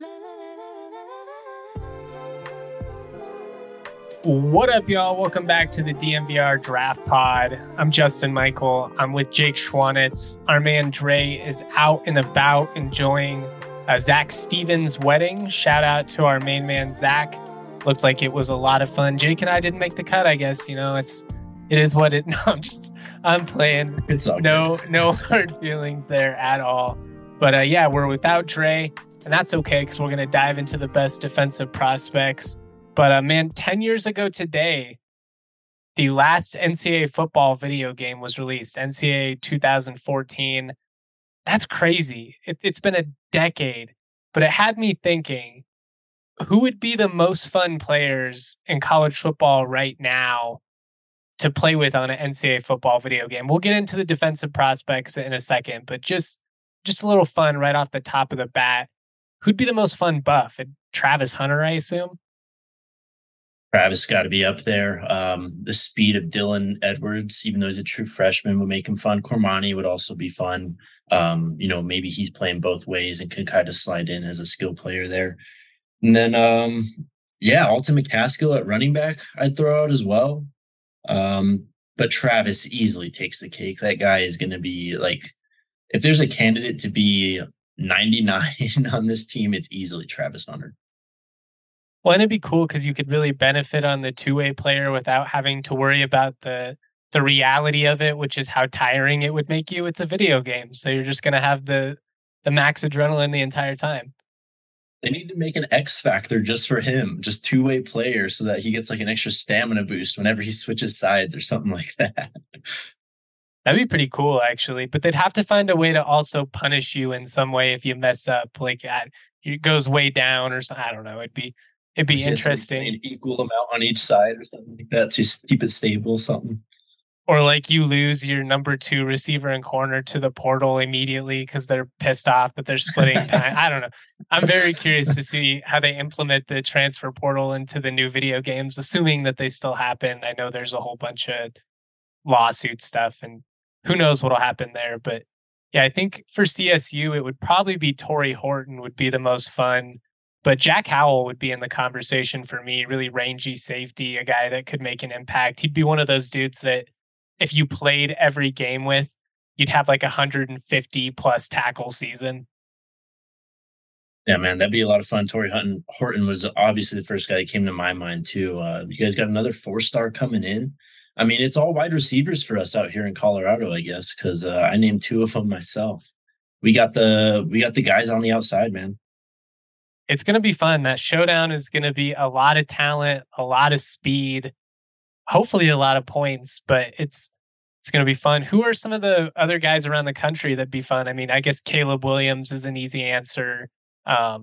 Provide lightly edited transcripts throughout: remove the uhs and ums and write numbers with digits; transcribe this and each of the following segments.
What up, y'all? Welcome back to the DMVR Draft Pod. I'm Justin Michael. I'm with Jake Schwanitz. Our man Dre is out and about enjoying Zach Stevens' wedding. Shout out to our main man, Zach. Looked like it was a lot of fun. Jake and I didn't make the cut, I guess. You know, it is what it. No, I'm playing. It's all no hard feelings there at all. But yeah, we're without Dre, and that's okay because we're going to dive into the best defensive prospects. But man, 10 years ago today, the last NCAA football video game was released, NCAA 2014. That's crazy. It's been a decade, but it had me thinking, who would be the most fun players in college football right now to play with on an NCAA football video game? We'll get into the defensive prospects in a second, but just a little fun right off the top of the bat. Who'd be the most fun buff? Travis Hunter, I assume? Travis got to be up there. The speed of Dylan Edwards, even though he's a true freshman, would make him fun. Cormani would also be fun. Maybe he's playing both ways and can kind of slide in as a skill player there. And then, Alton McCaskill at running back, I'd throw out as well. But Travis easily takes the cake. That guy is going to be like, if there's a candidate to be 99 on this team, it's easily Travis Hunter. Well, and it'd be cool because you could really benefit on the two-way player without having to worry about the reality of it, which is how tiring it would make you. It's a video game, so you're just going to have the max adrenaline the entire time. They need to make an X factor just for him, just two-way player, so that he gets like an extra stamina boost whenever he switches sides or something like that. That'd be pretty cool, actually. But they'd have to find a way to also punish you in some way if you mess up. Like it goes way down or something. I don't know. It'd be interesting. An equal amount on each side or something like that to keep it stable, something. Or like you lose your number 2 receiver and corner to the portal immediately because they're pissed off that they're splitting time. I don't know. I'm very curious to see how they implement the transfer portal into the new video games, assuming that they still happen. I know there's a whole bunch of lawsuit stuff and who knows what'll happen there. But yeah, I think for CSU, it would probably be Torrey Horton would be the most fun. But Jack Howell would be in the conversation for me, really rangy safety, a guy that could make an impact. He'd be one of those dudes that if you played every game with, you'd have like 150 plus tackle season. Yeah, man, that'd be a lot of fun. Torrey Horton was obviously the first guy that came to my mind too. You guys got another 4-star coming in. I mean, it's all wide receivers for us out here in Colorado, I guess, because I named 2 of them myself. We got the guys on the outside, man. It's going to be fun. That showdown is going to be a lot of talent, a lot of speed, hopefully a lot of points, but it's going to be fun. Who are some of the other guys around the country that'd be fun? I mean, I guess Caleb Williams is an easy answer. I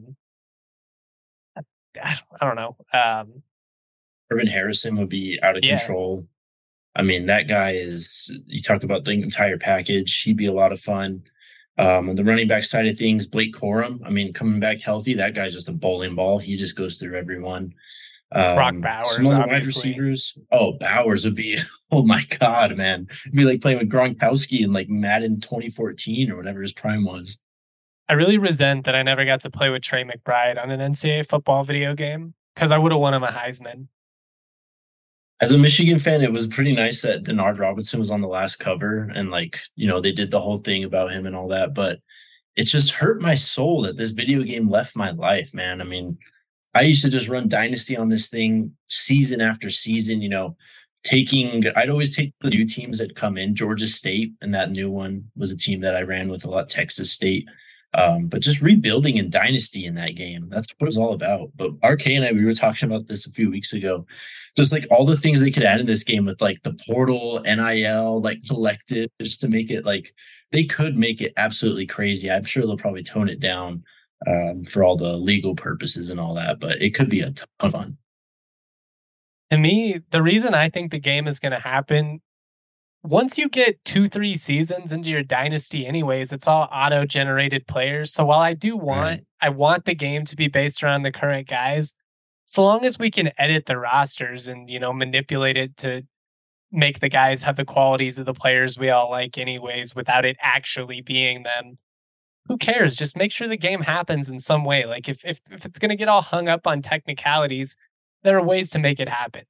don't know. Irvin Harrison would be out of control. I mean, that guy you talk about the entire package. He'd be a lot of fun. On the running back side of things, Blake Corum, I mean, coming back healthy, that guy's just a bowling ball. He just goes through everyone. Brock Bowers, some of the wide receivers. Oh, Bowers would be, oh my God, man. It'd be like playing with Gronkowski in like Madden 2014 or whatever his prime was. I really resent that I never got to play with Trey McBride on an NCAA football video game because I would have won him a Heisman. As a Michigan fan, it was pretty nice that Denard Robinson was on the last cover and they did the whole thing about him and all that, but it just hurt my soul that this video game left my life, man. I mean, I used to just run Dynasty on this thing season after season, I'd always take the new teams that come in. Georgia State, and that new one was a team that I ran with a lot, Texas State. But just rebuilding in Dynasty in that game, that's what it's all about. But RK and we were talking about this a few weeks ago. Just like all the things they could add in this game with like the portal, NIL, like collective, just to make it like they could make it absolutely crazy. I'm sure they'll probably tone it down for all the legal purposes and all that, but it could be a ton of fun. To me, the reason I think the game is going to happen, once you get 2-3 seasons into your dynasty anyways, it's all auto-generated players. So while I want the game to be based around the current guys, so long as we can edit the rosters and, manipulate it to make the guys have the qualities of the players we all like anyways, without it actually being them, who cares? Just make sure the game happens in some way. Like if it's going to get all hung up on technicalities, there are ways to make it happen.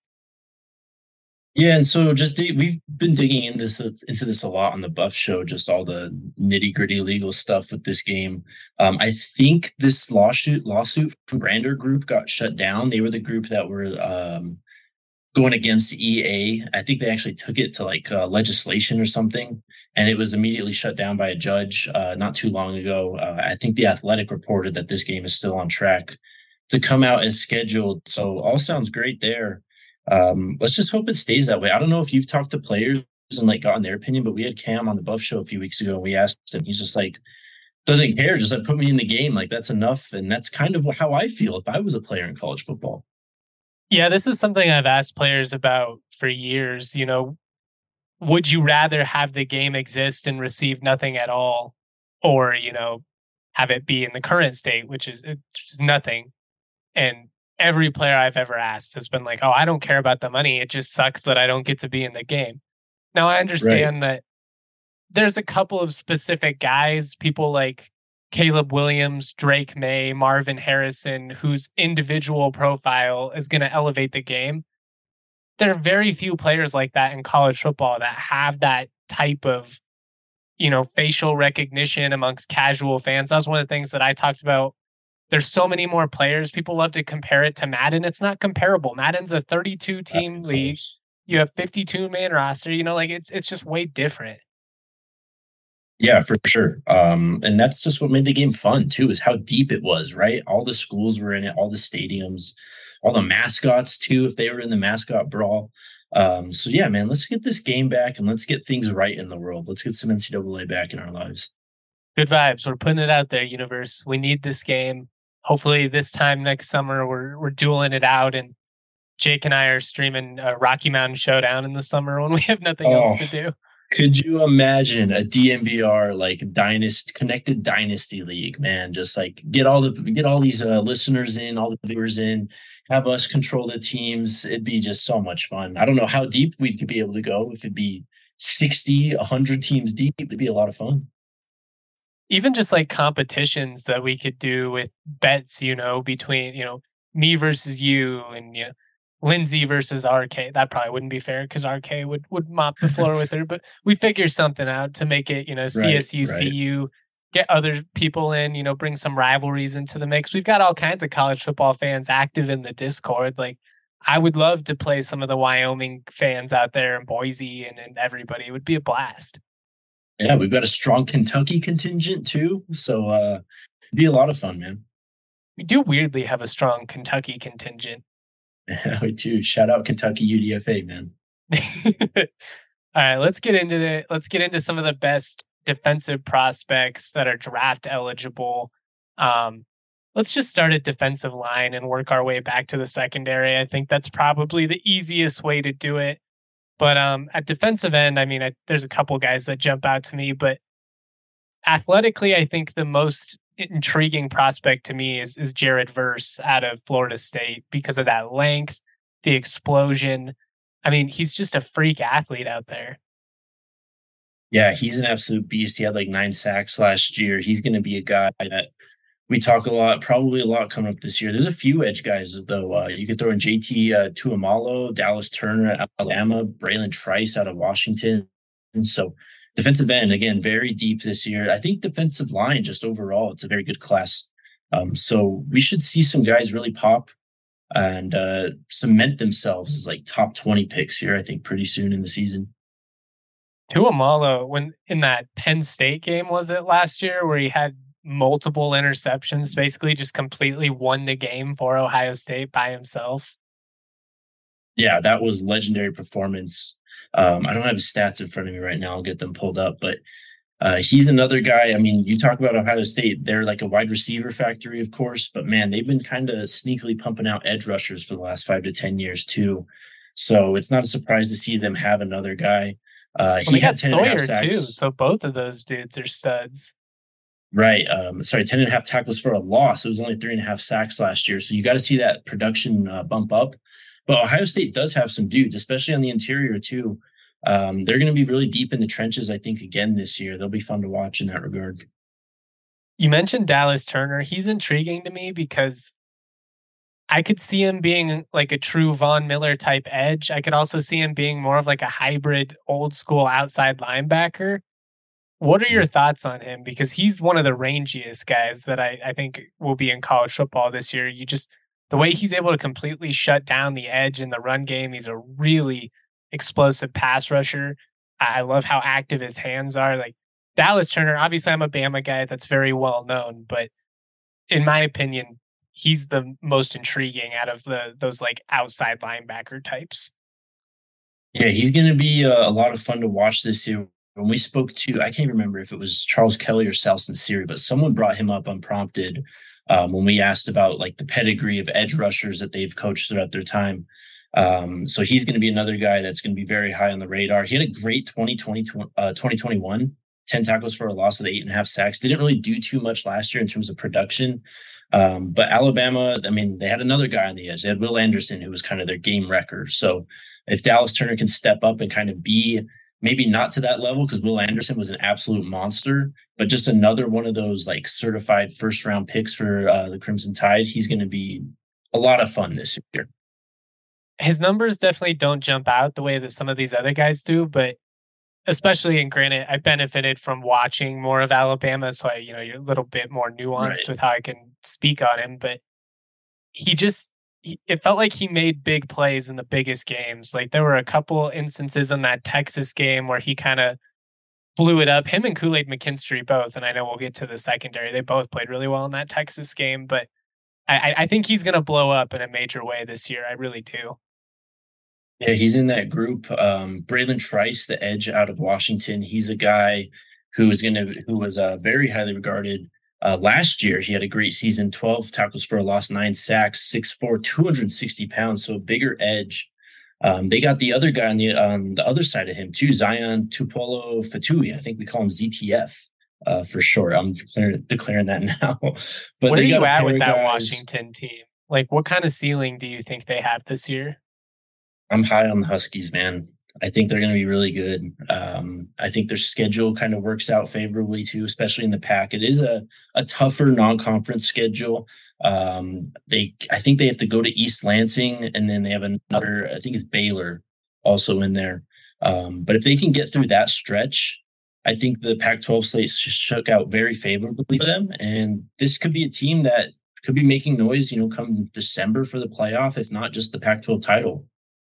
Yeah, and so we've been digging into this a lot on the Buff Show, just all the nitty gritty legal stuff with this game. I think this lawsuit from Grander Group got shut down. They were the group that were going against EA. I think they actually took it to like legislation or something, and it was immediately shut down by a judge not too long ago. I think the Athletic reported that this game is still on track to come out as scheduled. So all sounds great there. Let's just hope it stays that way. I don't know if you've talked to players and like gotten their opinion, but we had Cam on the Buff Show a few weeks ago, and we asked him. He's just like doesn't care, just like put me in the game, like that's enough. And that's kind of how I feel if I was a player in college football. Yeah, this is something I've asked players about for years. Would you rather have the game exist and receive nothing at all, or have it be in the current state, which is just nothing? And every player I've ever asked has been like, "Oh, I don't care about the money. It just sucks that I don't get to be in the game." Now I Right. understand that there's a couple of specific guys, people like Caleb Williams, Drake May, Marvin Harrison, whose individual profile is going to elevate the game. There are very few players like that in college football that have that type of, facial recognition amongst casual fans. That's one of the things that I talked about. There's so many more players. People love to compare it to Madden. It's not comparable. Madden's a 32 Not team even league. close. You have 52 man roster, like it's just way different. Yeah, for sure. And that's just what made the game fun too, is how deep it was, right? All the schools were in it, all the stadiums, all the mascots too, if they were in the mascot brawl. So yeah, man, let's get this game back and let's get things right in the world. Let's get some NCAA back in our lives. Good vibes. We're putting it out there, universe. We need this game. Hopefully, this time next summer, we're dueling it out, and Jake and I are streaming Rocky Mountain Showdown in the summer when we have nothing else Oh, to do. could you imagine a DMVR like dynasty connected dynasty league, man? Just like get all these listeners in, all the viewers in, have us control the teams. It'd be just so much fun. I don't know how deep we could be able to go. If it'd be 60, 100 teams deep, it'd be a lot of fun. Even just like competitions that we could do with bets, between me versus you, and Lindsay versus RK. That probably wouldn't be fair because RK would mop the floor with her, but we figure something out to make it, Right, CSU, right. CU, get other people in, bring some rivalries into the mix. We've got all kinds of college football fans active in the Discord. Like, I would love to play some of the Wyoming fans out there in Boise and everybody. It would be a blast. Yeah, we've got a strong Kentucky contingent too. So it'd be a lot of fun, man. We do weirdly have a strong Kentucky contingent. We do. Shout out Kentucky UDFA, man. All right, let's get into some of the best defensive prospects that are draft eligible. Um, let's just start at defensive line and work our way back to the secondary. I think that's probably the easiest way to do it. But at defensive end, I mean, there's a couple guys that jump out to me, but athletically, I think the most intriguing prospect to me is Jared Verse out of Florida State because of that length, the explosion. I mean, he's just a freak athlete out there. Yeah, he's an absolute beast. He had like 9 sacks last year. He's going to be a guy that we talk a lot, probably a lot coming up this year. There's a few edge guys though. You could throw in JT Tuamalo, Dallas Turner at Alabama, Braylon Trice out of Washington. And so defensive end again, very deep this year. I think defensive line just overall, it's a very good class. So we should see some guys really pop and cement themselves as like top 20 picks here. I think pretty soon in the season. Tuamalo, when in that Penn State game, was it last year, where he had multiple interceptions, basically just completely won the game for Ohio State by himself? Yeah, that was legendary performance. I don't have his stats in front of me right now. I'll get them pulled up, but he's another guy. I mean, you talk about Ohio State; they're like a wide receiver factory, of course, but man, they've been kind of sneakily pumping out edge rushers for the last 5 to 10 years too. So it's not a surprise to see them have another guy. Well, He they got had 10 and a half Sawyer too, sacks. so both of those dudes are studs. Right. Sorry, 10 and a half tackles for a loss. It was only 3.5 sacks last year. So you got to see that production bump up. But Ohio State does have some dudes, especially on the interior, too. They're going to be really deep in the trenches, I think, again this year. They'll be fun to watch in that regard. You mentioned Dallas Turner. He's intriguing to me because I could see him being like a true Von Miller type edge. I could also see him being more of like a hybrid old school outside linebacker. What are your thoughts on him? Because he's one of the rangiest guys that I think will be in college football this year. The way he's able to completely shut down the edge in the run game, he's a really explosive pass rusher. I love how active his hands are. Like Dallas Turner, obviously I'm a Bama guy that's very well known, but in my opinion, he's the most intriguing out of those like outside linebacker types. Yeah, he's going to be a lot of fun to watch this year. When we spoke to, I can't remember if it was Charles Kelly or Salson Siri, but someone brought him up unprompted when we asked about like the pedigree of edge rushers that they've coached throughout their time. So he's going to be another guy that's going to be very high on the radar. He had a great 2021, 10 tackles for a loss with 8.5 sacks. They didn't really do too much last year in terms of production. But Alabama, I mean, they had another guy on the edge. They had Will Anderson, who was kind of their game wrecker. So if Dallas Turner can step up and kind of be maybe not to that level, because Will Anderson was an absolute monster, but just another one of those like certified first round picks for the Crimson Tide, he's going to be a lot of fun this year. His numbers definitely don't jump out the way that some of these other guys do, but especially in granted, I benefited from watching more of Alabama, so you're a little bit more Right. nuanced with how I can speak on him. But he just, it felt like he made big plays in the biggest games. Like there were a couple instances in that Texas game where he kind of blew it up. Him and Kool-Aid McKinstry both, and I know we'll get to the secondary. They both played really well in that Texas game, but I think he's going to blow up in a major way this year. I really do. Yeah, he's in that group. Braylon Trice, the edge out of Washington, he's a guy who was very highly regarded. Last year, he had a great season: 12 tackles for a loss, 9 sacks, 6'4", 260 pounds, so a bigger edge. They got the other guy on the other side of him too, Zion Tupolo Fatui. I think we call him ZTF for short. I'm declaring that now. But Where are they got you a at pair with of that guys. Washington team? Like, what kind of ceiling do you think they have this year? I'm high on the Huskies, man. I think they're going to be really good. I think their schedule kind of works out favorably too, especially in the pack. It is a tougher non-conference schedule. I think they have to go to East Lansing, and then they have another. I think it's Baylor also in there. But if they can get through that stretch, I think the Pac-12 slate shook out very favorably for them, and this could be a team that could be making noise, come December for the playoff, if not just the Pac-12 title.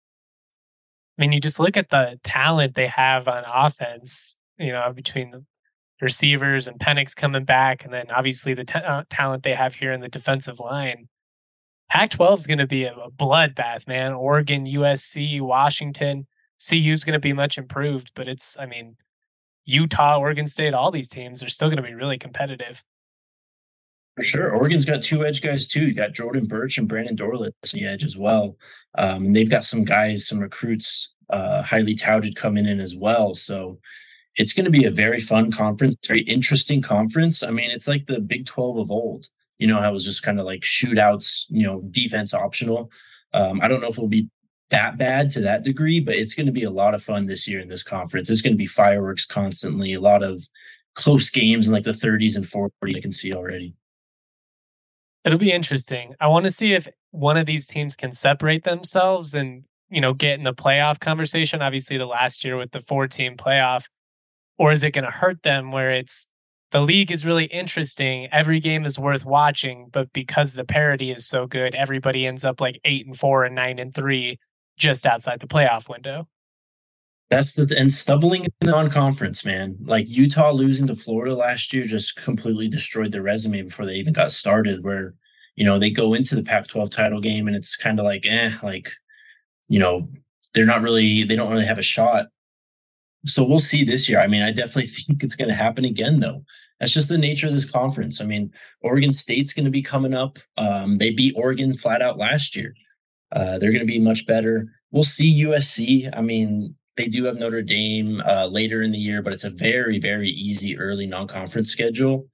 I mean, you just look at the talent they have on offense, between the receivers and Penix coming back, and then obviously the talent they have here in the defensive line. Pac 12 is going to be a bloodbath, man. Oregon, USC, Washington, CU is going to be much improved, but I mean, Utah, Oregon State, all these teams are still going to be really competitive. For sure. Oregon's got two edge guys too. You got Jordan Birch and Brandon Dorlitz on the edge as well. And they've got some guys, some recruits, highly touted coming in as well. So it's going to be a very fun conference, very interesting conference. I mean, it's like the Big 12 of old. How it was just kind of like shootouts, defense optional. I don't know if it'll be that bad to that degree, but it's going to be a lot of fun this year in this conference. It's going to be fireworks constantly, a lot of close games in like the 30s and 40s I can see already. It'll be interesting. I want to see if one of these teams can separate themselves and, get in the playoff conversation. Obviously, the last year with the 4-team playoff, or is it going to hurt them where it's the league is really interesting. Every game is worth watching, but because the parity is so good, everybody ends up like 8-4 and 9-3 just outside the playoff window. That's and stumbling in the non-conference, man. Like Utah losing to Florida last year just completely destroyed their resume before they even got started. Where they go into the Pac-12 title game and it's kind of like, you know, they don't really have a shot. So we'll see this year. I mean, I definitely think it's going to happen again, though. That's just the nature of this conference. I mean, Oregon State's going to be coming up. They beat Oregon flat out last year. They're going to be much better. We'll see USC. I mean, they do have Notre Dame later in the year, but it's a very, very easy early non-conference schedule.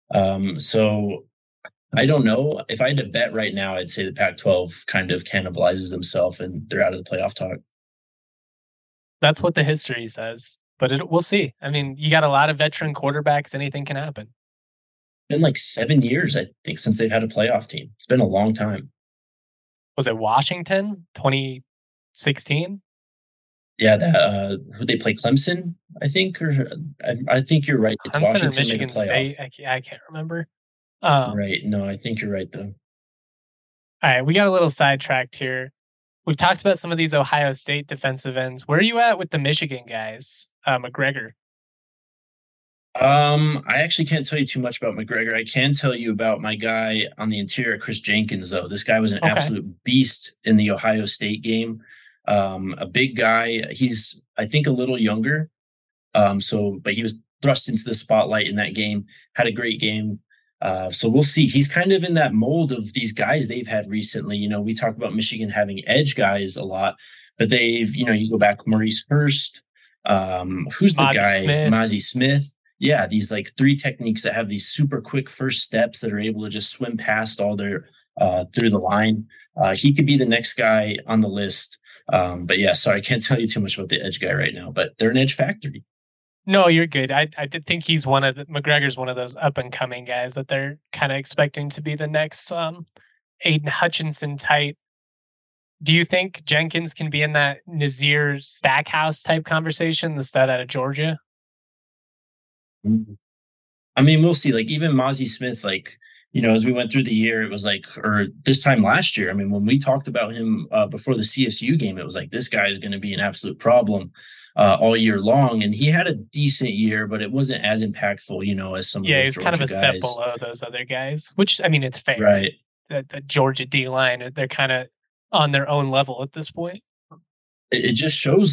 So I don't know. If I had to bet right now, I'd say the Pac-12 kind of cannibalizes themselves and they're out of the playoff talk. That's what the history says, but we'll see. I mean, you got a lot of veteran quarterbacks. Anything can happen. been like 7 years, I think, since they've had a playoff team. It's been a long time. Was it Washington 2016? Yeah, that who they play Clemson, I think, or I think you're right. Clemson or Washington made a Michigan playoff. State? I can't remember. Um, Right. No, I think you're right though. all right, we got a little sidetracked here. We've talked about some of these Ohio State defensive ends. Where are you at with the Michigan guys? McGregor. I actually can't tell you too much about McGregor. I can tell you about my guy on the interior, Chris Jenkins, though. This guy was an Okay. absolute beast in the Ohio State game. A big guy. He's, I think, a little younger. But he was thrust into the spotlight in that game, had a great game. So we'll see. He's kind of in that mold of these guys they've had recently. We talk about Michigan having edge guys a lot, but you go back Maurice Hurst. Who's the Mozzie guy? Smith. Mozzie Smith. Yeah, these like three techniques that have these super quick first steps that are able to just swim past all their through the line. He could be the next guy on the list. But yeah, sorry, I can't tell you too much about the edge guy right now, but they're an edge factory. No, you're good. I did think he's McGregor's one of those up and coming guys that they're kind of expecting to be the next Aiden Hutchinson type. Do you think Jenkins can be in that Nazir Stackhouse type conversation, the stud out of Georgia? Mhm. I mean, we'll see. Like even Mozzie Smith, like as we went through the year, it was like, or this time last year. I mean, when we talked about him before the CSU game, it was like this guy is going to be an absolute problem all year long, and he had a decent year, but it wasn't as impactful, as some of Yeah, those he's kind of Georgia a step guys. below those other guys, which I mean, it's fair. Right. The Georgia D line, they're kind of on their own level at this point. It just shows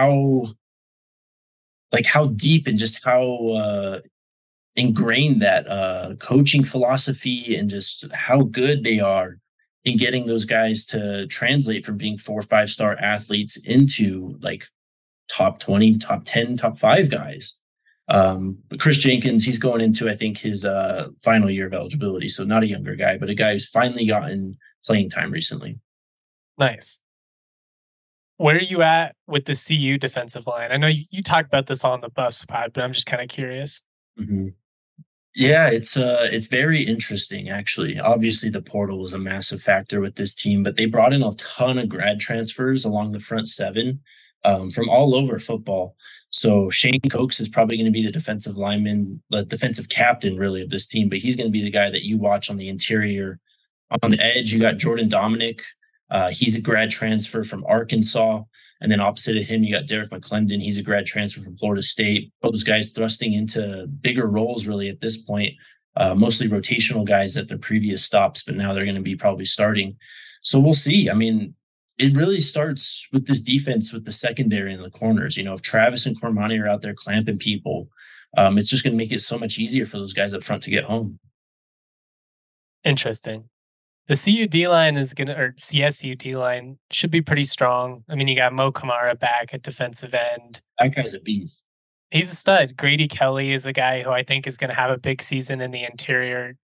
like how deep and just how ingrained that coaching philosophy and just how good they are in getting those guys to translate from being 4 or 5 star athletes into like top 20, top 10, top five guys. But Chris Jenkins, he's going into, I think, his final year of eligibility. So not a younger guy, but a guy who's finally gotten playing time recently. Nice. Where are you at with the CU defensive line? I know you talked about this on the Buffs pod, but I'm just kind of curious. Mm-hmm. Yeah, it's very interesting actually. Obviously, the portal was a massive factor with this team, but they brought in a ton of grad transfers along the front seven from all over football. So Shane Cokes is probably going to be the defensive lineman, the defensive captain, really, of this team. But he's going to be the guy that you watch on the interior. On the edge, you got Jordan Dominic. He's a grad transfer from Arkansas. And then opposite of him, you got Derek McClendon. He's a grad transfer from Florida State. Both those guys thrusting into bigger roles really at this point, mostly rotational guys at their previous stops, but now they're going to be probably starting. So we'll see. I mean, it really starts with this defense with the secondary and the corners. If Travis and Cormani are out there clamping people, it's just going to make it so much easier for those guys up front to get home. Interesting. The CUD line or CSUD line should be pretty strong. I mean, you got Mo Kamara back at defensive end. That guy's a beast. He's a stud. Grady Kelly is a guy who I think is going to have a big season in the interior.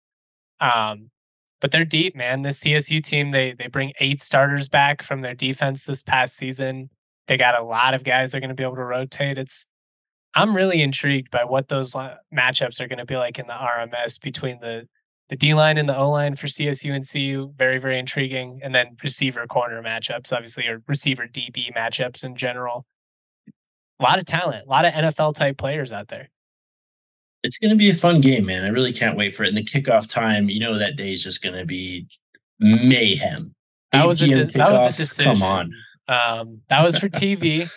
But they're deep, man. This CSU team, they bring 8 starters back from their defense this past season. They got a lot of guys they're going to be able to rotate. I'm really intrigued by what those matchups are going to be like in the RMS between the D line and the O line for CSU and CU. Very, very intriguing. And then receiver corner matchups, obviously, or receiver DB matchups in general. A lot of talent, a lot of NFL type players out there. It's going to be a fun game, man. I really can't wait for it. And the kickoff time, that day is just going to be mayhem. That was a decision. Come on. That was for TV.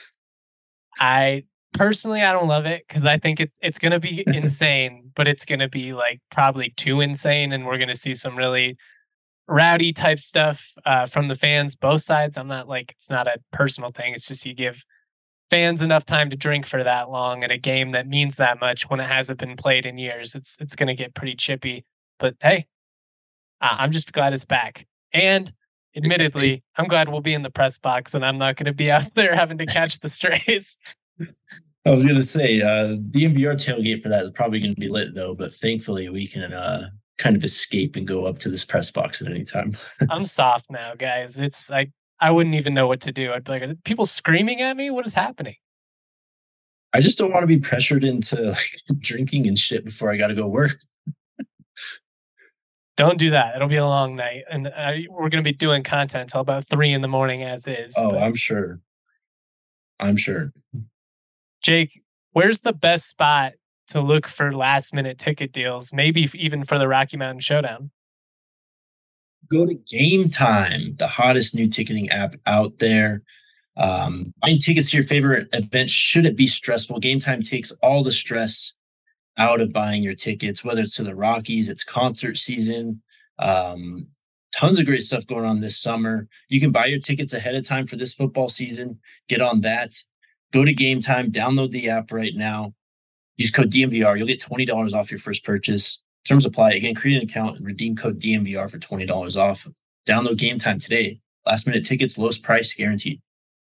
I don't love it because I think it's going to be insane, but it's going to be like probably too insane, and we're going to see some really rowdy type stuff from the fans, both sides. It's not a personal thing. It's just you give fans enough time to drink for that long in a game that means that much when it hasn't been played in years. It's going to get pretty chippy, but hey, I'm just glad it's back. And admittedly, I'm glad we'll be in the press box and I'm not going to be out there having to catch the strays. I was going to say, DMVR tailgate for that is probably going to be lit though, but thankfully we can kind of escape and go up to this press box at any time. I'm soft now, guys. It's like, I wouldn't even know what to do. I'd be like, are people screaming at me? What is happening? I just don't want to be pressured into like drinking and shit before I got to go work. Don't do that. It'll be a long night, and we're going to be doing content till about 3 in the morning as is. Oh, But I'm sure. I'm sure. Jake, where's the best spot to look for last minute ticket deals? Maybe even for the Rocky Mountain Showdown. Go to Game Time, the hottest new ticketing app out there. Buying tickets to your favorite event shouldn't be stressful. Game Time takes all the stress out of buying your tickets, whether it's to the Rockies, it's concert season. Um, Tons of great stuff going on this summer. You can buy your tickets ahead of time for this football season. Get on that. Go to Game Time, download the app right now. Use code DMVR. You'll get $20 off your first purchase. Terms apply. Again, create an account and redeem code DMVR for $20 off. Download Game Time today. Last minute tickets, lowest price guaranteed.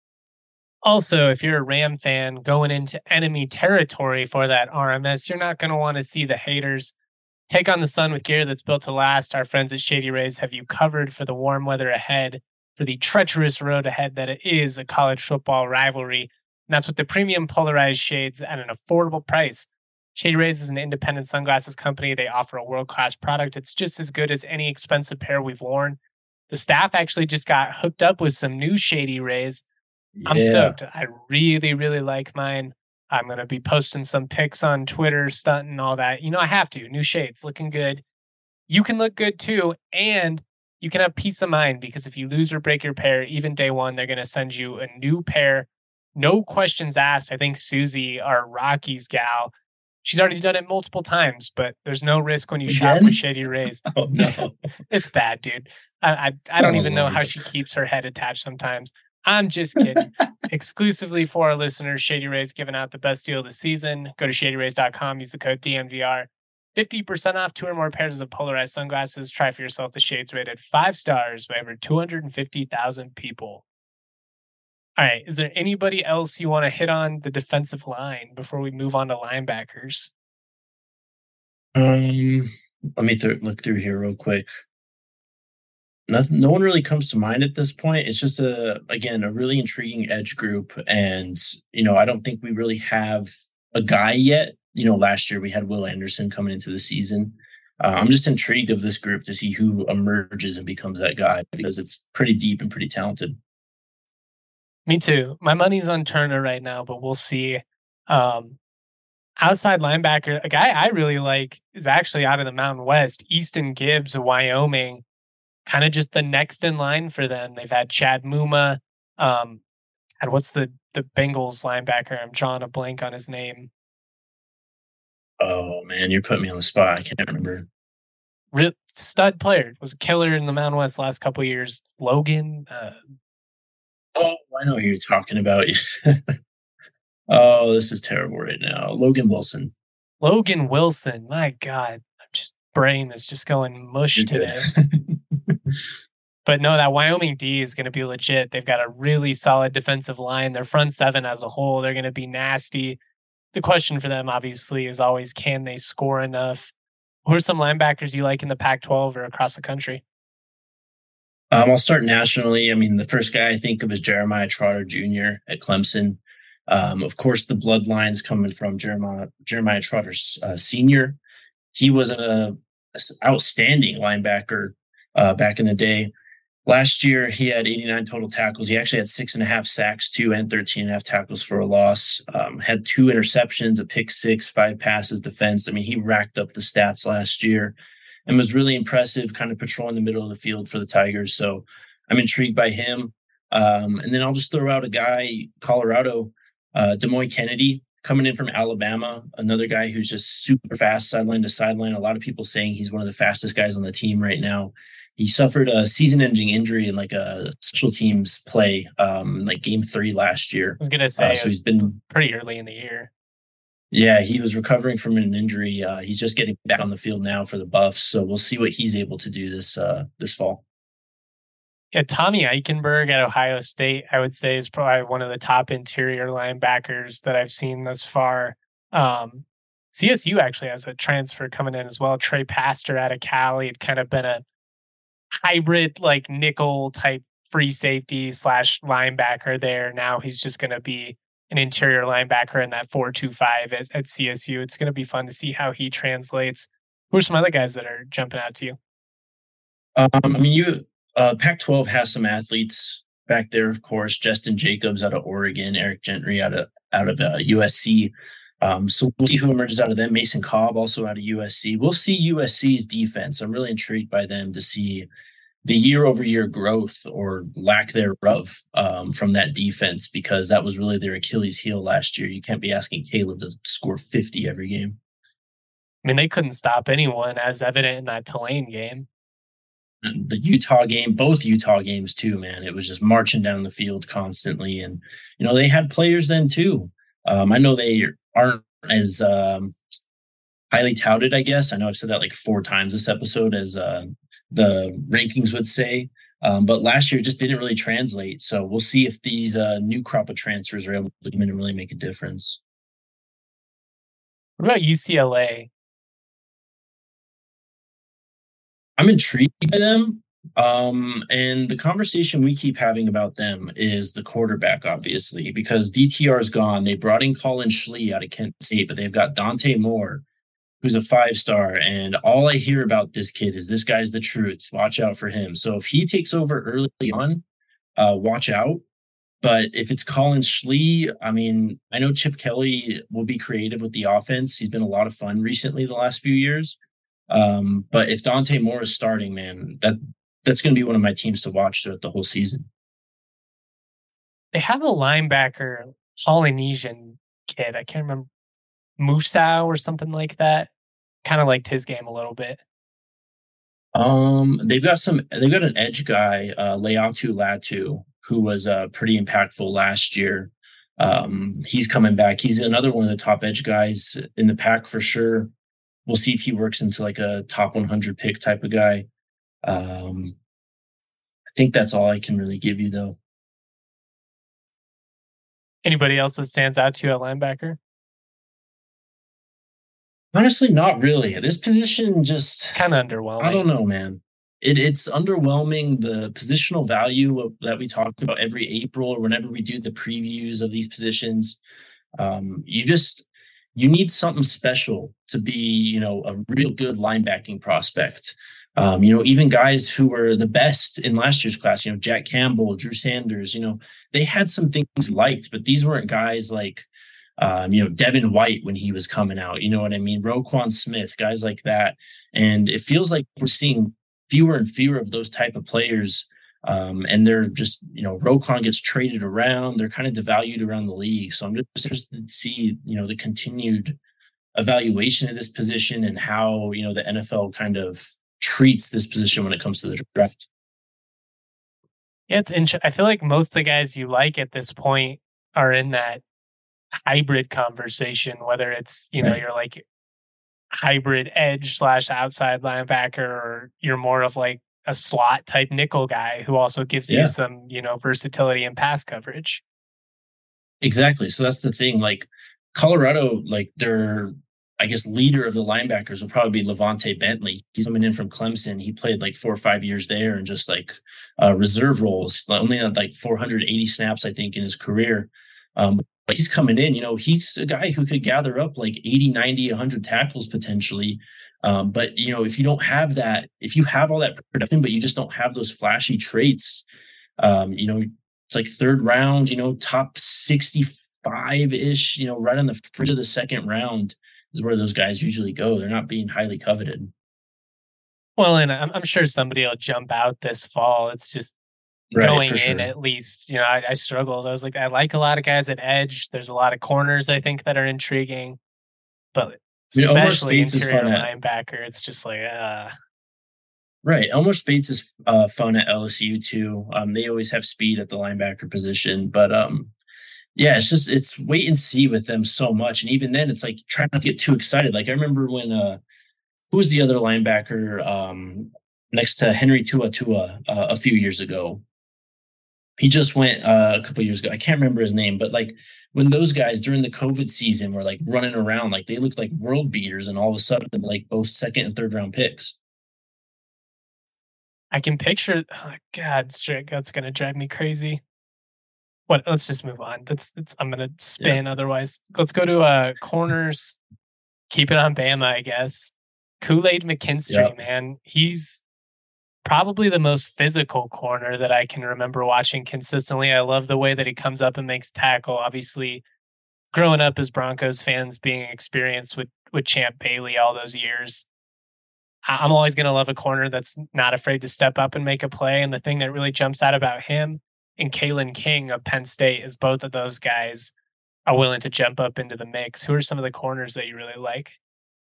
Also, if you're a Ram fan going into enemy territory for that RMS, you're not going to want to see the haters. Take on the sun with gear that's built to last. Our friends at Shady Rays have you covered for the warm weather ahead, for the treacherous road ahead that it is a college football rivalry. And that's with the premium polarized shades at an affordable price. Shady Rays is an independent sunglasses company. They offer a world-class product. It's just as good as any expensive pair we've worn. The staff actually just got hooked up with some new Shady Rays. I'm Yeah. stoked. I really, really like mine. I'm going to be posting some pics on Twitter, stunting all that. I have to. New shades, looking good. You can look good too. And you can have peace of mind because if you lose or break your pair, even day one, they're going to send you a new pair. No questions asked. I think Susie, our Rockies gal, she's already done it multiple times, but there's no risk when you shop with Again? Shady Rays. Oh, no. It's bad, dude. I don't Oh, even know how Lord. she keeps her head attached sometimes. I'm just kidding. Exclusively for our listeners, Shady Rays giving out the best deal of the season. Go to shadyrays.com, use the code DMVR. 50% off 2 or more pairs of polarized sunglasses. Try for yourself the shades rated 5 stars by over 250,000 people. All right. Is there anybody else you want to hit on the defensive line before we move on to linebackers? Let me look through here real quick. Nothing, no one really comes to mind at this point. It's just again, a really intriguing edge group. And, I don't think we really have a guy yet. Last year we had Will Anderson coming into the season. I'm just intrigued of this group to see who emerges and becomes that guy because it's pretty deep and pretty talented. Me too. My money's on Turner right now, but we'll see. Outside linebacker, a guy I really like is actually out of the Mountain West, Easton Gibbs of Wyoming. Kind of just the next in line for them. They've had Chad Muma. And what's the Bengals linebacker? I'm drawing a blank on his name. Oh man, you're putting me on the spot. I can't remember. Real stud player. Was a killer in the Mountain West the last couple of years. Logan. Oh, I know who you're talking about. Oh, this is terrible right now. Logan Wilson. Logan Wilson. My God. I'm just brain is just going mush You're today. good. But no, that Wyoming D is going to be legit. They've got a really solid defensive line. Their front seven as a whole, they're going to be nasty. The question for them, obviously, is always can they score enough? Who are some linebackers you like in the Pac-12 or across the country? I'll start nationally. I mean, the first guy I think of is Jeremiah Trotter Jr. at Clemson. Of course, the bloodlines coming from Jeremiah Trotter Sr. He was an outstanding linebacker back in the day. Last year, he had 89 total tackles. He actually had 6.5 sacks, too, and 13.5 tackles for a loss. Had 2 interceptions, a pick 6, 5 passes defense. I mean, he racked up the stats last year and was really impressive, kind of patrolling the middle of the field for the Tigers. So I'm intrigued by him. And then I'll just throw out a guy, Colorado, Demoy Kennedy, coming in from Alabama, another guy who's just super fast sideline to sideline. A lot of people saying he's one of the fastest guys on the team right now. He suffered a season-ending injury in like a special teams play, like game 3 last year. I was going to say, so he's been pretty early in the year. Yeah, he was recovering from an injury. He's just getting back on the field now for the Buffs, so we'll see what he's able to do this fall. Yeah, Tommy Eichenberg at Ohio State, I would say, is probably one of the top interior linebackers that I've seen thus far. CSU actually has a transfer coming in as well. Trey Pastor out of Cali had kind of been a hybrid, like nickel type free safety / linebacker there. Now he's just going to be an interior linebacker in that 4-2-5 at CSU. It's going to be fun to see how he translates. Who are some other guys that are jumping out to you? I mean, Pac-12 has some athletes back there, of course. Justin Jacobs out of Oregon, Eric Gentry out of USC. So we'll see who emerges out of them. Mason Cobb also out of USC. We'll see USC's defense. I'm really intrigued by them to see the year-over-year growth or lack thereof from that defense, because that was really their Achilles heel last year. You can't be asking Caleb to score 50 every game. I mean, they couldn't stop anyone, as evident in that Tulane game. And the Utah game, both Utah games too, man. It was just marching down the field constantly. And, they had players then too. I know they aren't as highly touted, I guess. I know I've said that like 4 times this episode, as the rankings would say. But last year just didn't really translate. So we'll see if these new crop of transfers are able to come in and really make a difference. What about UCLA? I'm intrigued by them. And the conversation we keep having about them is the quarterback, obviously, because DTR is gone. They brought in Colin Schlee out of Kent State, but they've got Dante Moore, who's a 5-star. And all I hear about this kid is this guy's the truth. Watch out for him. So if he takes over early on, watch out. But if it's Colin Schlee, I mean, I know Chip Kelly will be creative with the offense. He's been a lot of fun recently the last few years. But if Dante Moore is starting, man, that's going to be one of my teams to watch throughout the whole season. They have a linebacker, Polynesian kid. I can't remember, Musau or something like that. Kind of liked his game a little bit. They've got an edge guy, Leatu Latu, who was pretty impactful last year. He's coming back. He's another one of the top edge guys in the pack for sure. We'll see if he works into like a top 100 pick type of guy. I think that's all I can really give you, though. Anybody else that stands out to you at linebacker? Honestly, not really. This position just kind of underwhelming. I don't know, man. It's underwhelming. The positional value that we talk about every April or whenever we do the previews of these positions, you need something special to be, a real good linebacking prospect. Even guys who were the best in last year's class, Jack Campbell, Drew Sanders, they had some things liked, but these weren't guys like, Devin White when he was coming out, you know what I mean? Roquan Smith, guys like that. And it feels like we're seeing fewer and fewer of those type of players. And they're just, Roquan gets traded around. They're kind of devalued around the league. So I'm just interested to see, the continued evaluation of this position and how, the NFL kind of treats this position when it comes to the draft. Yeah, it's interesting. I feel like most of the guys you like at this point are in that hybrid conversation, whether it's, Right. you're like hybrid edge / outside linebacker, or you're more of like a slot type nickel guy who also gives you some, versatility and pass coverage. Exactly. So that's the thing. Like Colorado, like their, I guess, leader of the linebackers will probably be Levante Bentley. He's coming in from Clemson. He played like 4 or 5 years there and just like reserve roles, only had like 480 snaps, I think, in his career. But he's coming in, he's a guy who could gather up like 80, 90, 100 tackles potentially. But, if you don't have that, if you have all that production, but you just don't have those flashy traits, it's like 3rd round, top 65-ish, right on the fringe of the 2nd round is where those guys usually go. They're not being highly coveted. Well, and I'm sure somebody will jump out this fall. It's just going in, at least, I struggled. I was like, I like a lot of guys at edge. There's a lot of corners I think that are intriguing, but especially interior linebacker, it's just like, Right. Elmer Speights is fun at LSU too. They always have speed at the linebacker position, but yeah, it's wait and see with them so much. And even then it's like trying not to get too excited. Like I remember when who was the other linebacker next to Henry Tua a few years ago? He just went a couple years ago. I can't remember his name, but like when those guys during the COVID season were like running around, like they looked like world beaters, and all of a sudden, like both 2nd and 3rd round picks. I can picture. Oh God, that's gonna drive me crazy. What? Let's just move on. I'm gonna spin. Yeah. Otherwise, let's go to corners. Keep it on Bama, I guess. Kool-Aid McKinstry, man, he's Probably the most physical corner that I can remember watching consistently. I love the way that he comes up and makes tackle. Obviously, growing up as Broncos fans, being experienced with Champ Bailey all those years, I'm always going to love a corner that's not afraid to step up and make a play. And the thing that really jumps out about him and Kalen King of Penn State is both of those guys are willing to jump up into the mix. Who are some of the corners that you really like?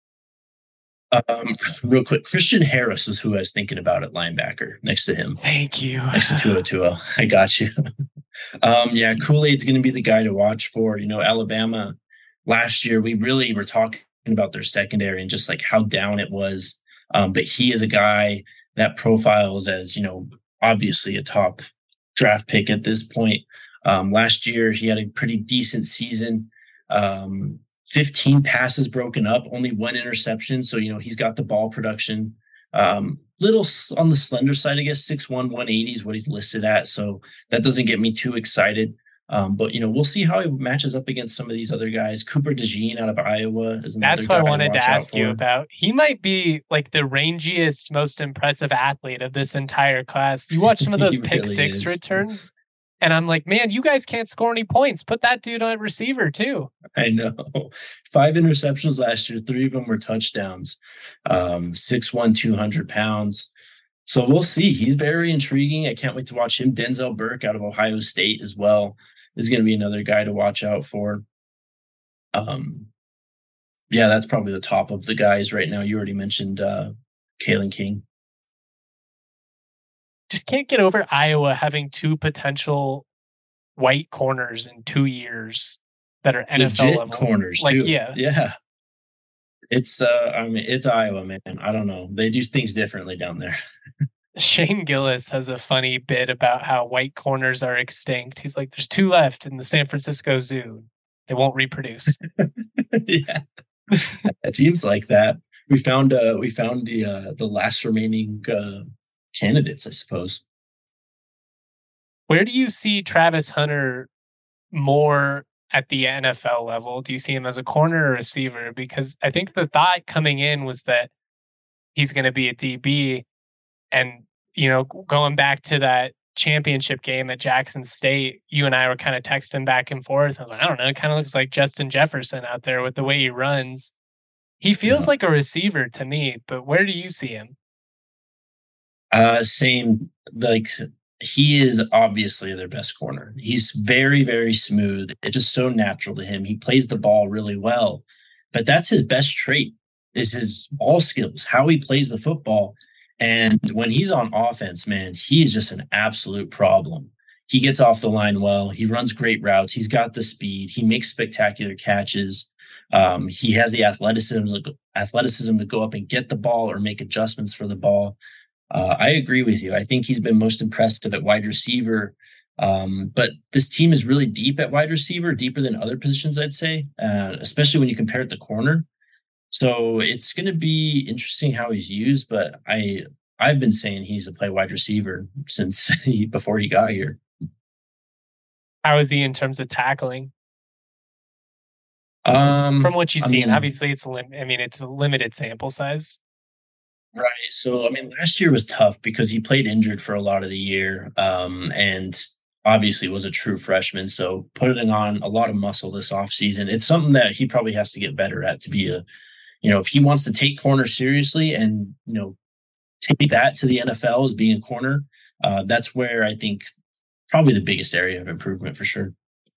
Real quick, Christian Harris was who I was thinking about at linebacker next to him. Thank you. Next to Tua. I got you. Yeah, Kool-Aid's going to be the guy to watch for. Alabama last year, we really were talking about their secondary and just like how down it was. But he is a guy that profiles as, obviously a top draft pick at this point. Last year, he had a pretty decent season. 15 passes broken up, only one interception. So, he's got the ball production. Little on the slender side, I guess, 6'1", 180 is what he's listed at. So that doesn't get me too excited. But, we'll see how he matches up against some of these other guys. Cooper DeJean out of Iowa is another That's what I wanted to ask you for. about. He might be like the rangiest, most impressive athlete of this entire class. You watch some of those pick really six is. returns, and I'm like, man, you guys can't score any points. Put that dude on receiver too. I know. 5 interceptions last year. 3 of them were touchdowns. 6'1", 200 pounds. So we'll see. He's very intriguing. I can't wait to watch him. Denzel Burke out of Ohio State as well is going to be another guy to watch out for. Yeah, that's probably the top of the guys right now. You already mentioned Kalen King. Just can't get over Iowa having 2 potential white corners in 2 years that are NFL Legit level corners like, too. Yeah. It's it's Iowa, man. I don't know. They do things differently down there. Shane Gillis has a funny bit about how white corners are extinct. He's like, there's 2 left in the San Francisco Zoo. They won't reproduce. Yeah. It seems like that. We found the last remaining candidates, I suppose. Where do you see Travis Hunter more at the NFL level? Do you see him as a corner or receiver? Because I think the thought coming in was that he's going to be a DB. And, going back to that championship game at Jackson State, you and I were kind of texting back and forth. I was like, I don't know, it kind of looks like Justin Jefferson out there with the way he runs. He feels like a receiver to me, but where do you see him? Same. Like, he is obviously their best corner. He's very, very smooth. It's just so natural to him. He plays the ball really well, but that's his best trait is his ball skills, how he plays the football. And when he's on offense, man, he's just an absolute problem. He gets off the line well. He runs great routes. He's got the speed. He makes spectacular catches. He has the athleticism to go up and get the ball or make adjustments for the ball. I agree with you. I think he's been most impressive at wide receiver. But this team is really deep at wide receiver, deeper than other positions, I'd say, especially when you compare it to corner. So it's going to be interesting how he's used, but I've been saying he's a play wide receiver since before he got here. How is he in terms of tackling? From what you've seen, obviously it's a limited sample size. Right. So, last year was tough because he played injured for a lot of the year, and obviously was a true freshman. So putting on a lot of muscle this offseason, it's something that he probably has to get better at to be if he wants to take corner seriously and, take that to the NFL as being a corner, that's where I think probably the biggest area of improvement for sure.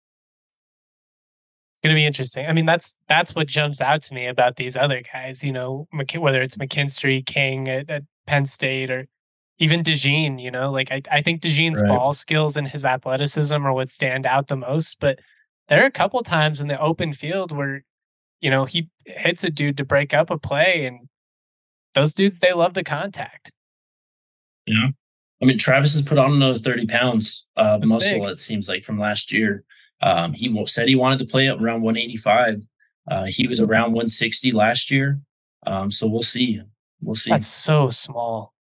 It's going to be interesting. That's what jumps out to me about these other guys, whether it's McKinstry, King at Penn State, or even DeJean, I think DeJean's ball skills and his athleticism are what stand out the most. But there are a couple times in the open field where, he hits a dude to break up a play, and those dudes, they love the contact. Yeah. Travis has put on another 30 pounds of muscle, big. It seems like, from last year. He said he wanted to play up around 185. He was around 160 last year. So we'll see. That's so small.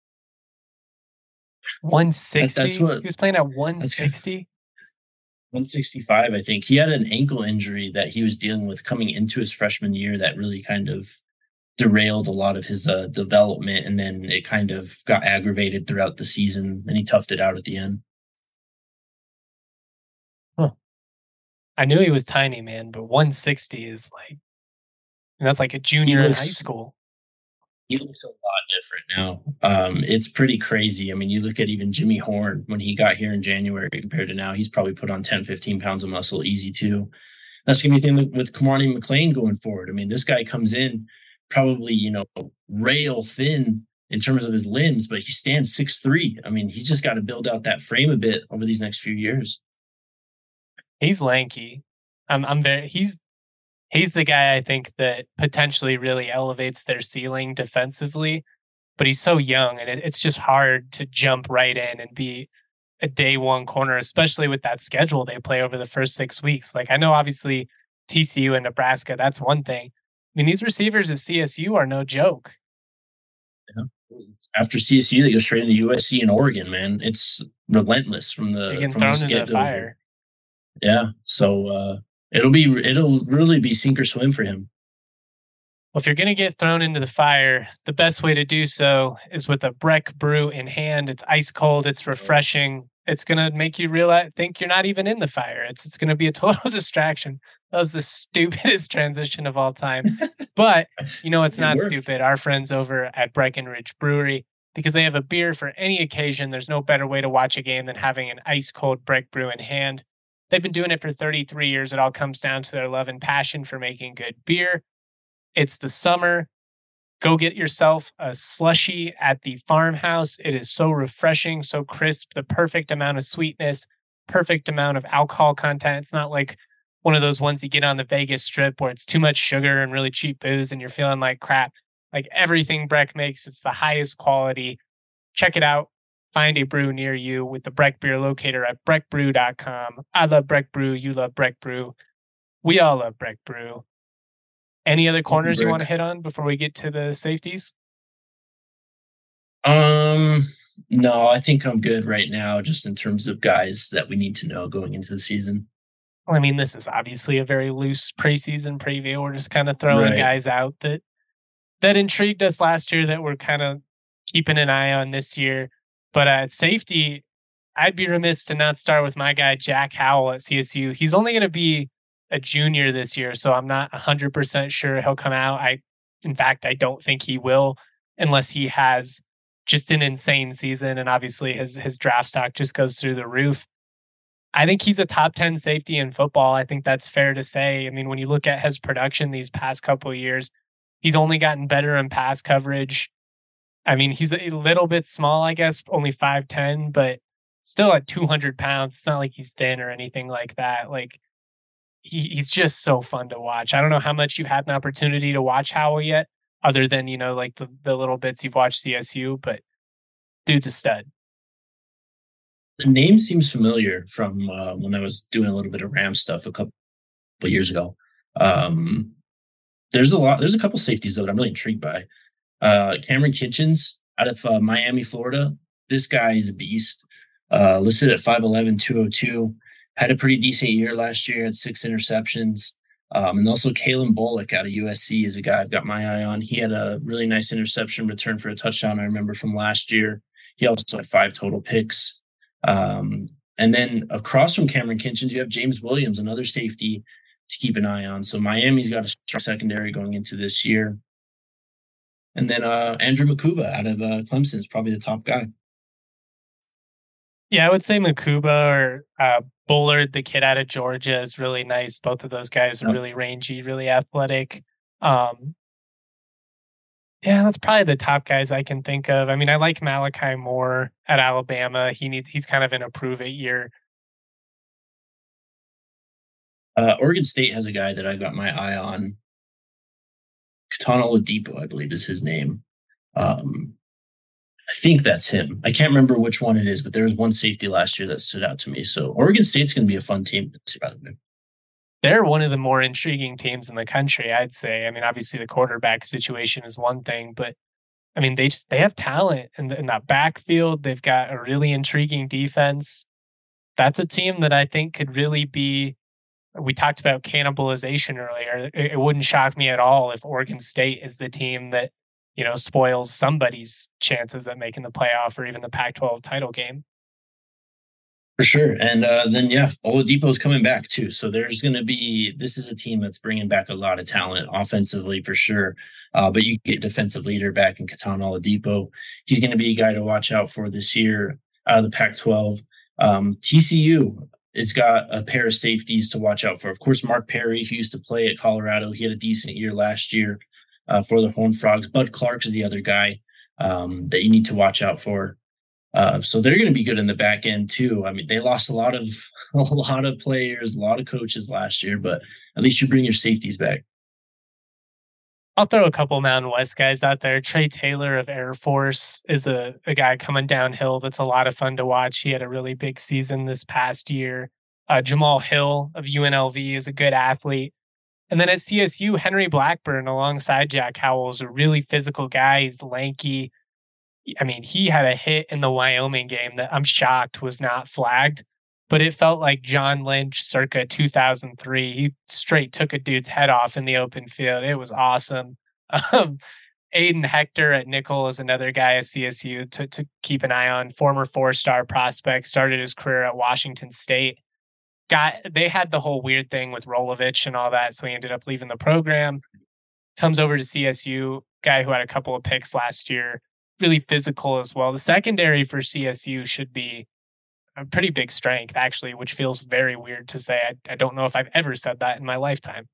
160? He was playing at 160? 165, I think. He had an ankle injury that he was dealing with coming into his freshman year that really kind of derailed a lot of his development, and then it kind of got aggravated throughout the season, and he toughed it out at the end. Huh. I knew he was tiny, man, but 160 is like, and that's like a He junior in high looks school. he looks a lot different now. It's pretty crazy. I mean, you look at even Jimmy Horn when he got here in January compared to now, he's probably put on 10, 15 pounds of muscle easy too. That's gonna be the thing with Kamani McLean going forward. I mean, this guy comes in probably, rail thin in terms of his limbs, but he stands 6'3". I mean, he's just got to build out that frame a bit over these next few years. He's lanky. I'm very he's the guy I think that potentially really elevates their ceiling defensively, but he's so young and it's just hard to jump right in and be a day one corner, especially with that schedule they play over the first 6 weeks. Like I know obviously TCU and Nebraska, that's one thing. I mean, these receivers at CSU are no joke. Yeah. After CSU, they go straight into USC and Oregon, man. It's relentless They're getting from thrown this into get the go here. fire. Yeah. So it'll really be sink or swim for him. Well, if you're going to get thrown into the fire, the best way to do so is with a Breck brew in hand. It's ice cold. It's refreshing. It's going to make you realize, think you're not even in the fire. It's going to be a total distraction. That was the stupidest transition of all time. But, it's It not worked. stupid. Our friends over at Breckenridge Brewery, because they have a beer for any occasion, there's no better way to watch a game than having an ice cold Breck brew in hand. They've been doing it for 33 years. It all comes down to their love and passion for making good beer. It's the summer. Go get yourself a slushy at the farmhouse. It is so refreshing, so crisp, the perfect amount of sweetness, perfect amount of alcohol content. It's not like one of those ones you get on the Vegas Strip where it's too much sugar and really cheap booze and you're feeling like crap. Like everything Breck makes, it's the highest quality. Check it out. Find a brew near you with the Breck Beer Locator at breckbrew.com. I love Breck Brew. You love Breck Brew. We all love Breck Brew. Any other Welcome, corners you want to Brick. hit on before we get to the safeties? Um, no, I think I'm good right now, just in terms of guys that we need to know going into the season. Well, I mean, this is obviously a very loose preseason preview. We're just kind of throwing Right. guys out that intrigued us last year that we're kind of keeping an eye on this year. But at safety, I'd be remiss to not start with my guy Jack Howell at CSU. He's only going to be a junior this year, so I'm not 100% sure he'll come out. In fact, I don't think he will unless he has just an insane season, and obviously his draft stock just goes through the roof. I think he's a top 10 safety in football. I think that's fair to say. I mean, when you look at his production these past couple of years, he's only gotten better in pass coverage. I mean, he's a little bit small, I guess, only 5'10", but still at 200 pounds. It's not like he's thin or anything like that. Like, he's just so fun to watch. I don't know how much you've had an opportunity to watch Howell yet, other than, like the little bits you've watched CSU, but dude's a stud. The name seems familiar from when I was doing a little bit of Ram stuff a couple of years ago. Um, there's a couple safeties though that I'm really intrigued by. Cameron Kitchens out of Miami, Florida. This guy is a beast. Listed at 5'11", 202. Had a pretty decent year last year, had 6 interceptions. And also Kalen Bullock out of USC is a guy I've got my eye on. He had a really nice interception return for a touchdown, I remember, from last year. He also had 5 total picks. And then across from Cameron Kitchens, you have James Williams, another safety to keep an eye on. So Miami's got a strong secondary going into this year. And then Andrew Makuba out of Clemson is probably the top guy. Yeah, I would say Makuba or Bullard, the kid out of Georgia, is really nice. Both of those guys are really rangy, really athletic. Yeah, that's probably the top guys I can think of. I mean, I like Malachi Moore at Alabama. He's kind of in a prove it year. Oregon State has a guy that I got my eye on. Katana Oladipo, I believe, is his name. I think that's him. I can't remember which one it is, but there was one safety last year that stood out to me. So Oregon State's going to be a fun team this year, by the way. They're one of the more intriguing teams in the country, I'd say. I mean, obviously the quarterback situation is one thing, but I mean, they have talent in that backfield. They've got a really intriguing defense. That's a team that I think could really be We talked about cannibalization earlier. It wouldn't shock me at all if Oregon State is the team that, spoils somebody's chances at making the playoff or even the Pac-12 title game. For sure. And then, yeah, Oladipo's coming back too. So this is a team that's bringing back a lot of talent offensively for sure. But you get defensive leader back in Keton Oladipo. He's going to be a guy to watch out for this year out of the Pac-12. TCU has got a pair of safeties to watch out for. Of course, Mark Perry, who used to play at Colorado, he had a decent year last year for the Horned Frogs. Bud Clark is the other guy that you need to watch out for. So they're going to be good in the back end too. I mean, they lost a lot of players, a lot of coaches last year, but at least you bring your safeties back. I'll throw a couple Mountain West guys out there. Trey Taylor of Air Force is a guy coming downhill that's a lot of fun to watch. He had a really big season this past year. Jamal Hill of UNLV is a good athlete. And then at CSU, Henry Blackburn alongside Jack Howell is a really physical guy. He's lanky. I mean, he had a hit in the Wyoming game that I'm shocked was not flagged, but it felt like John Lynch circa 2003. He straight took a dude's head off in the open field. It was awesome. Aiden Hector at nickel is another guy at CSU to keep an eye on. Former 4-star prospect, started his career at Washington State. They had the whole weird thing with Rolovich and all that, so he ended up leaving the program. Comes over to CSU, guy who had a couple of picks last year. Really physical as well. The secondary for CSU should be a pretty big strength, actually, which feels very weird to say. I don't know if I've ever said that in my lifetime.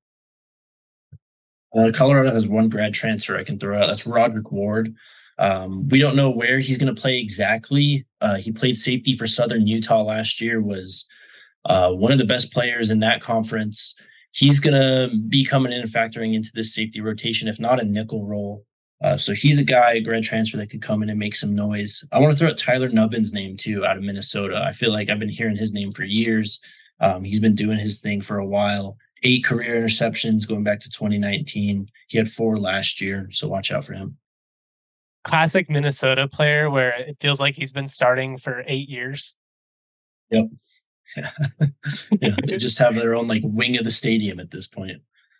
Colorado has one grad transfer I can throw out. That's Roderick Ward. We don't know where he's going to play exactly. He played safety for Southern Utah last year, was one of the best players in that conference. He's going to be coming in and factoring into this safety rotation, if not a nickel role. So he's a guy, a grad transfer that could come in and make some noise. I want to throw out Tyler Nubbin's name too, out of Minnesota. I feel like I've been hearing his name for years. He's been doing his thing for a while. 8 career interceptions going back to 2019. He had 4 last year, so watch out for him. Classic Minnesota player where it feels like he's been starting for 8 years. Yep. Yeah, they just have their own like wing of the stadium at this point.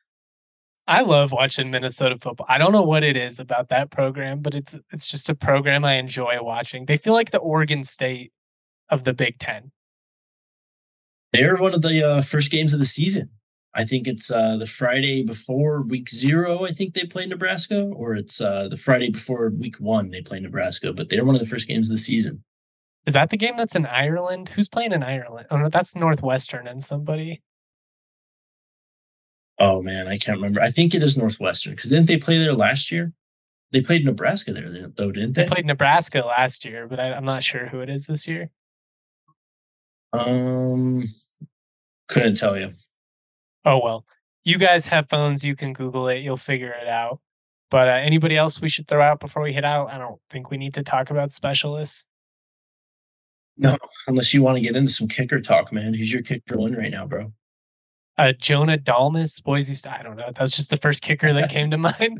I love watching Minnesota football. I don't know what it is about that program, but it's just a program I enjoy watching. They feel like the Oregon State of the Big Ten. They're one of the first games of the season. I think it's the Friday before week 0. I think they play Nebraska, or it's the Friday before week 1 they play Nebraska. But they're one of the first games of the season. Is that the game that's in Ireland? Who's playing in Ireland? Oh no, that's Northwestern and somebody. Oh, man, I can't remember. I think it is Northwestern, because didn't they play there last year? They played Nebraska there, though, didn't they? They played Nebraska last year, but I'm not sure who it is this year. Couldn't tell you. Oh, well. You guys have phones. You can Google it. You'll figure it out. But anybody else we should throw out before we head out? I don't think we need to talk about specialists. No, unless you want to get into some kicker talk, man. Who's your kicker one right now, bro? Jonah Dalmas, Boise State. I don't know. That was just the first kicker that came to mind.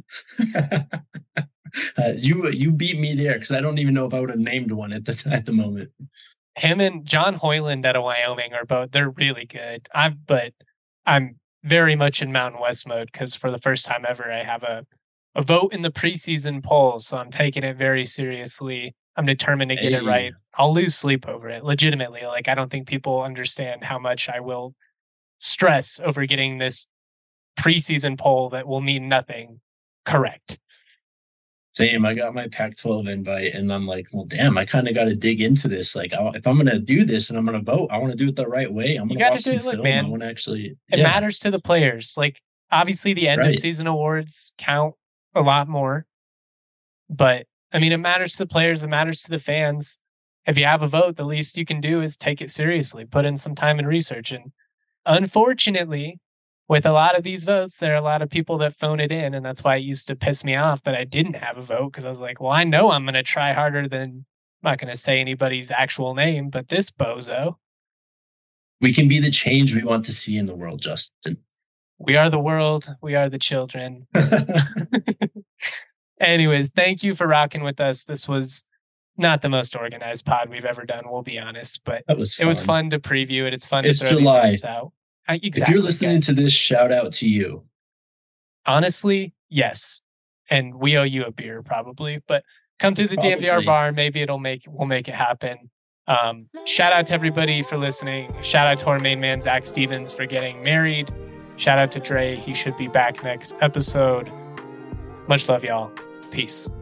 You beat me there because I don't even know if I would have named one at the moment. Him and John Hoyland out of Wyoming are both. They're really good. But I'm very much in Mountain West mode because for the first time ever, I have a vote in the preseason poll, so I'm taking it very seriously. I'm determined to get it right. I'll lose sleep over it. Legitimately, like I don't think people understand how much I will stress over getting this preseason poll that will mean nothing correct. Same. I got my Pac-12 invite and I'm like, well, damn, I kind of got to dig into this. Like, if I'm going to do this and I'm going to vote, I want to do it the right way. I'm going to watch some film. Man, I want to actually. It matters to the players. Like, obviously, the end of season awards count a lot more. But, I mean, it matters to the players. It matters to the fans. If you have a vote, the least you can do is take it seriously, put in some time and research. And unfortunately, with a lot of these votes, there are a lot of people that phone it in. And that's why it used to piss me off that I didn't have a vote because I was like, well, I know I'm going to try harder than, I'm not going to say anybody's actual name, but this bozo. We can be the change we want to see in the world, Justin. We are the world. We are the children. Anyways, thank you for rocking with us. This was not the most organized pod we've ever done, we'll be honest, but it was fun to preview it. It's fun to throw these games out. Exactly. If you're listening to this, shout out to you. Honestly, yes. And we owe you a beer probably, but come to the DNVR bar. Maybe we'll make it happen. Shout out to everybody for listening. Shout out to our main man, Zach Stevens, for getting married. Shout out to Dre. He should be back next episode. Much love, y'all. Peace.